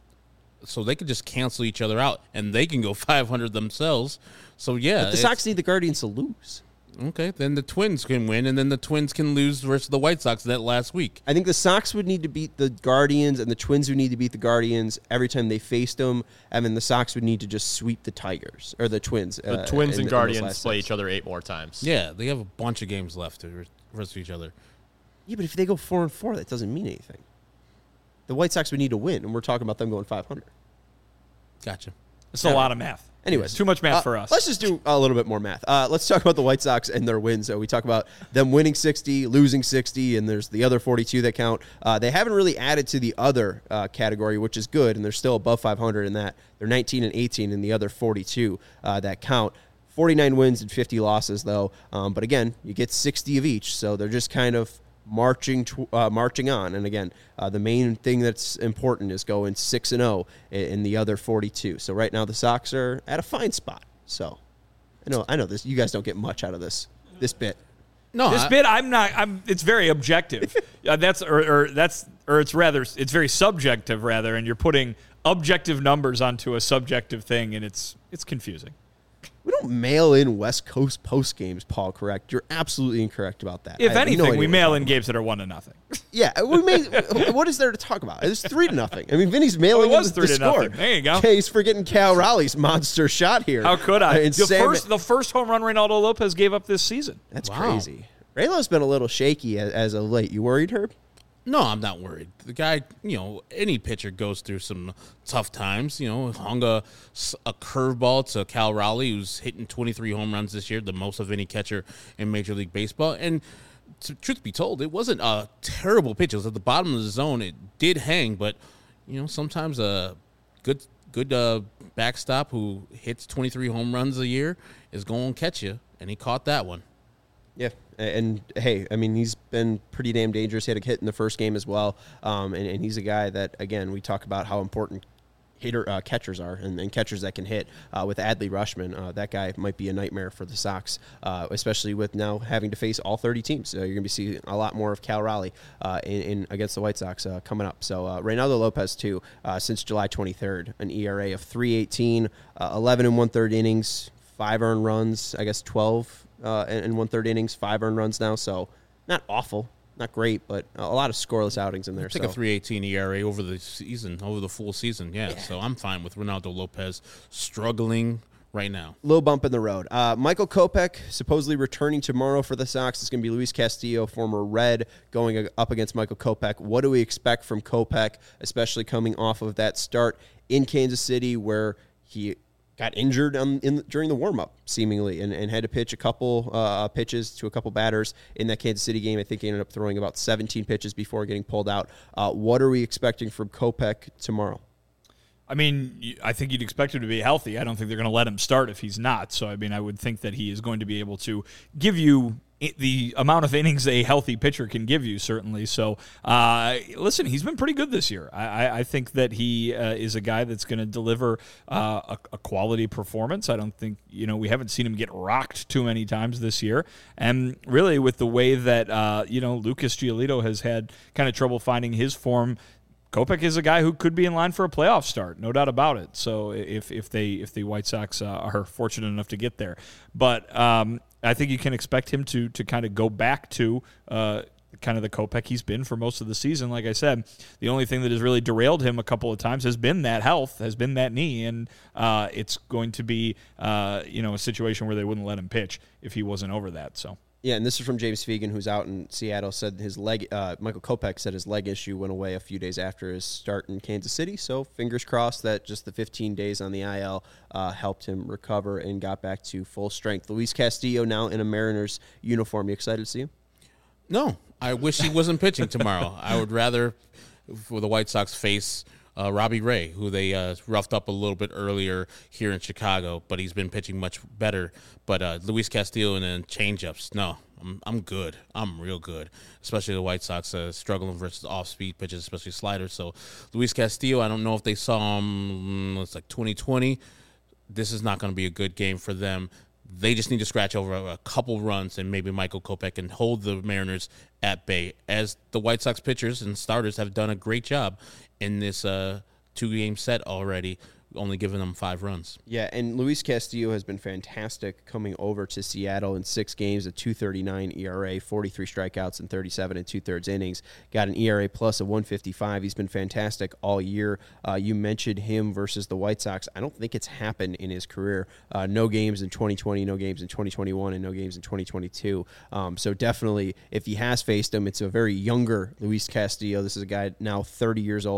so they could just cancel each other out, and they can go five hundred themselves. So yeah, But the it's- Sox need the Guardians to lose. Okay, then the Twins can win, and then the Twins can lose versus the White Sox that last week. I think the Sox would need to beat the Guardians, and the Twins would need to beat the Guardians every time they faced them, and then the Sox would need to just sweep the Tigers or the Twins. The uh, Twins in- in and those Guardians last play six. each other eight more times. Yeah, they have a bunch of games left to versus each other. Yeah, but if they go four and four, that doesn't mean anything. The White Sox would need to win, and we're talking about them going five hundred. Gotcha. It's a lot of math. Anyways, too much math uh, for us. Let's just do a little bit more math. Uh, let's talk about the White Sox and their wins. So we talk about them winning sixty, losing sixty, and there's the other forty-two that count. Uh, they haven't really added to the other uh, category, which is good, and they're still above five hundred in that. They're nineteen and eighteen in the other forty-two uh, that count. forty-nine wins and fifty losses, though. Um, but again, you get sixty of each, so they're just kind of marching tw- uh, marching on. And again, uh, the main thing that's important is going six and oh in, in the other forty-two. So right now the Sox are at a fine spot. So I know I know this. You guys don't get much out of this this bit. No, This I, bit, I'm not. I'm. It's very objective. uh, that's or, or that's or it's rather. It's very subjective rather, and you're putting objective numbers onto a subjective thing, and it's it's confusing. We don't mail in West Coast post games, Paul. Correct? You're absolutely incorrect about that. If I have no anything, idea we what you're mail talking in games that are one to nothing. about. Yeah, we made. What is there to talk about? It's three to nothing. I mean, Vinny's mailing Oh, it was in the, three the to score. nothing. There you go. Case for getting Cal Raleigh's monster shot here. How could I? Uh, and the Sam- first, the first home run Reynaldo Lopez gave up this season. That's Wow. crazy. Raylo's been a little shaky as, as of late. You worried, Herb? no, I'm not worried. The guy, you know, any pitcher goes through some tough times. You know, hung a, a curveball to Cal Raleigh, who's hitting twenty-three home runs this year, the most of any catcher in Major League Baseball. And to, truth be told, it wasn't a terrible pitch. It was at the bottom of the zone. It did hang, but, you know, sometimes a good good uh, backstop who hits twenty-three home runs a year is going to catch you, and he caught that one. Yeah, and hey, I mean, he's been pretty damn dangerous. He had a hit in the first game as well, um, and, and he's a guy that, again, we talk about how important hitter uh, catchers are and, and catchers that can hit. Uh, with Adley Rushman, uh, that guy might be a nightmare for the Sox, uh, especially with now having to face all thirty teams. So you're going to be seeing a lot more of Cal Raleigh uh, in, in against the White Sox uh, coming up. So uh, Reynaldo Lopez, too, uh, since July twenty-third, an E R A of three eighteen, uh, eleven and one-third innings, five earned runs, I guess twelve uh, and, and one-third innings, five earned runs now. So not awful. Not great, but a lot of scoreless outings in there. Take so. a three eighteen E R A over the season, over the full season. Yeah, yeah. So I'm fine with Reynaldo Lopez struggling right now. Little bump in the road. Uh, Michael Kopech supposedly returning tomorrow for the Sox. It's going to be Luis Castillo, former Red, going up against Michael Kopech. What do we expect from Kopech, especially coming off of that start in Kansas City where he got injured um, in during the warm-up, seemingly, and, and had to pitch a couple uh, pitches to a couple batters in that Kansas City game. I think he ended up throwing about seventeen pitches before getting pulled out. Uh, what are we expecting from Kopech tomorrow? I mean, I think you'd expect him to be healthy. I don't think they're going to let him start if he's not. So, I mean, I would think that he is going to be able to give you the amount of innings a healthy pitcher can give you, certainly. So, uh, listen, he's been pretty good this year. I, I think that he uh, is a guy that's going to deliver uh, a, a quality performance. I don't think, you know, we haven't seen him get rocked too many times this year. And really, with the way that, uh, you know, Lucas Giolito has had kind of trouble finding his form, Kopech is a guy who could be in line for a playoff start, no doubt about it. So if if they if the White Sox uh, are fortunate enough to get there, but um, I think you can expect him to to kind of go back to uh, kind of the Kopech he's been for most of the season. Like I said, the only thing that has really derailed him a couple of times has been that health, has been that knee, and uh, it's going to be uh, you know a situation where they wouldn't let him pitch if he wasn't over that. So. Yeah, and this is from James Fegan, who's out in Seattle, said his leg, uh, Michael Kopech said his leg issue went away a few days after his start in Kansas City, so fingers crossed that just the fifteen days on the I L uh, helped him recover and got back to full strength. Luis Castillo now in a Mariners uniform. You excited to see him? No, I wish he wasn't pitching tomorrow. I would rather, for the White Sox, face uh, Robbie Ray, who they uh, roughed up a little bit earlier here in Chicago, but he's been pitching much better. But uh, Luis Castillo and then changeups, no, I'm I'm good. I'm real good, especially the White Sox uh, struggling versus off-speed pitches, especially sliders. So Luis Castillo, I don't know if they saw him, it's like twenty twenty. This is not going to be a good game for them. They just need to scratch over a couple runs, and maybe Michael Kopech can hold the Mariners at bay, as the White Sox pitchers and starters have done a great job in this uh, two-game set already, only giving them five runs. Yeah, and Luis Castillo has been fantastic coming over to Seattle in six games, a two thirty-nine E R A, forty-three strikeouts, and thirty-seven and two-thirds innings. Got an E R A plus of one fifty-five. He's been fantastic all year. Uh, you mentioned him versus the White Sox. I don't think it's happened in his career. Uh, no games in twenty twenty, no games in twenty twenty-one, and no games in twenty twenty-two. Um, so definitely, if he has faced him, it's a very younger Luis Castillo. This is a guy now thirty years old.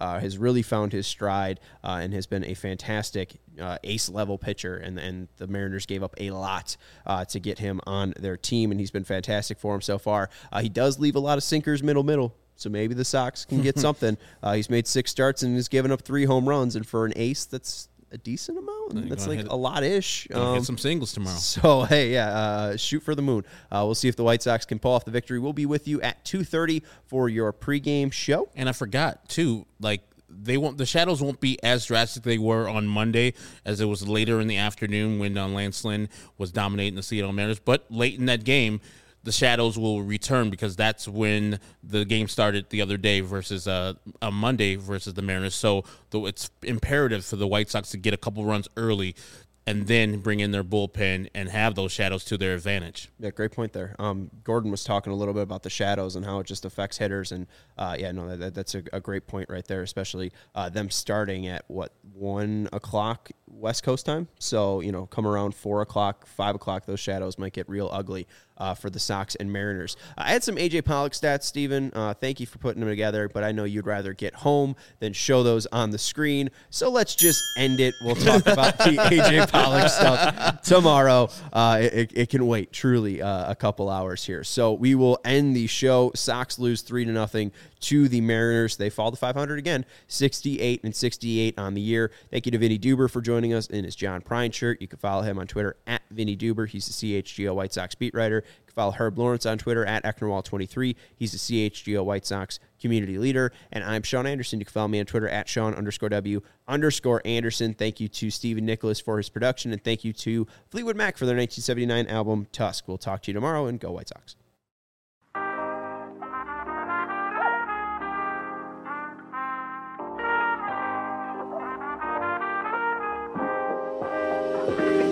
uh, has really found his stride uh, and has been a fantastic uh, ace-level pitcher, and, and the Mariners gave up a lot uh, to get him on their team, and he's been fantastic for him so far. Uh, he does leave a lot of sinkers middle-middle, so maybe the Sox can get something. Uh, he's made six starts and has given up three home runs, and for an ace, that's a decent amount. That's like hit, a lot-ish. Um, hit some singles tomorrow. So, hey, yeah, uh, shoot for the moon. Uh, we'll see if the White Sox can pull off the victory. We'll be with you at two thirty for your pregame show. And I forgot, too, like, they won't. The shadows won't be as drastic they were on Monday as it was later in the afternoon when uh, Lance Lynn was dominating the Seattle Mariners. But late in that game, the shadows will return because that's when the game started the other day versus uh, on Monday versus the Mariners. So though it's imperative for the White Sox to get a couple runs early and then bring in their bullpen and have those shadows to their advantage. Yeah, great point there. Um, Gordon was talking a little bit about the shadows and how it just affects hitters. And, uh, yeah, no, that, that's a, a great point right there, especially uh, them starting at, what, one o'clock West Coast time? So, you know, come around four o'clock, five o'clock, those shadows might get real ugly uh, for the Sox and Mariners. I had some A J Pollock stats, Steven. Uh, thank you for putting them together, but I know you'd rather get home than show those on the screen. So let's just end it. We'll talk about the A J Pollock stuff tomorrow. Uh, it, it can wait, truly, uh, a couple hours here. So we will end the show. Sox lose three to nothing to the Mariners. They fall to five hundred again, sixty-eight and sixty-eight on the year. Thank you to Vinny Duber for joining us in his John Prine shirt. You can follow him on Twitter at Vinny Duber. He's the C H G O White Sox beat writer. You can follow Herb Lawrence on Twitter at Ecknerwall twenty-three. He's the C H G O White Sox community leader. And I'm Sean Anderson. You can follow me on Twitter at Sean underscore W underscore Anderson. Thank you to Stephen Nicholas for his production. And thank you to Fleetwood Mac for their nineteen seventy-nine album, Tusk. We'll talk to you tomorrow, and go White Sox. Thank you.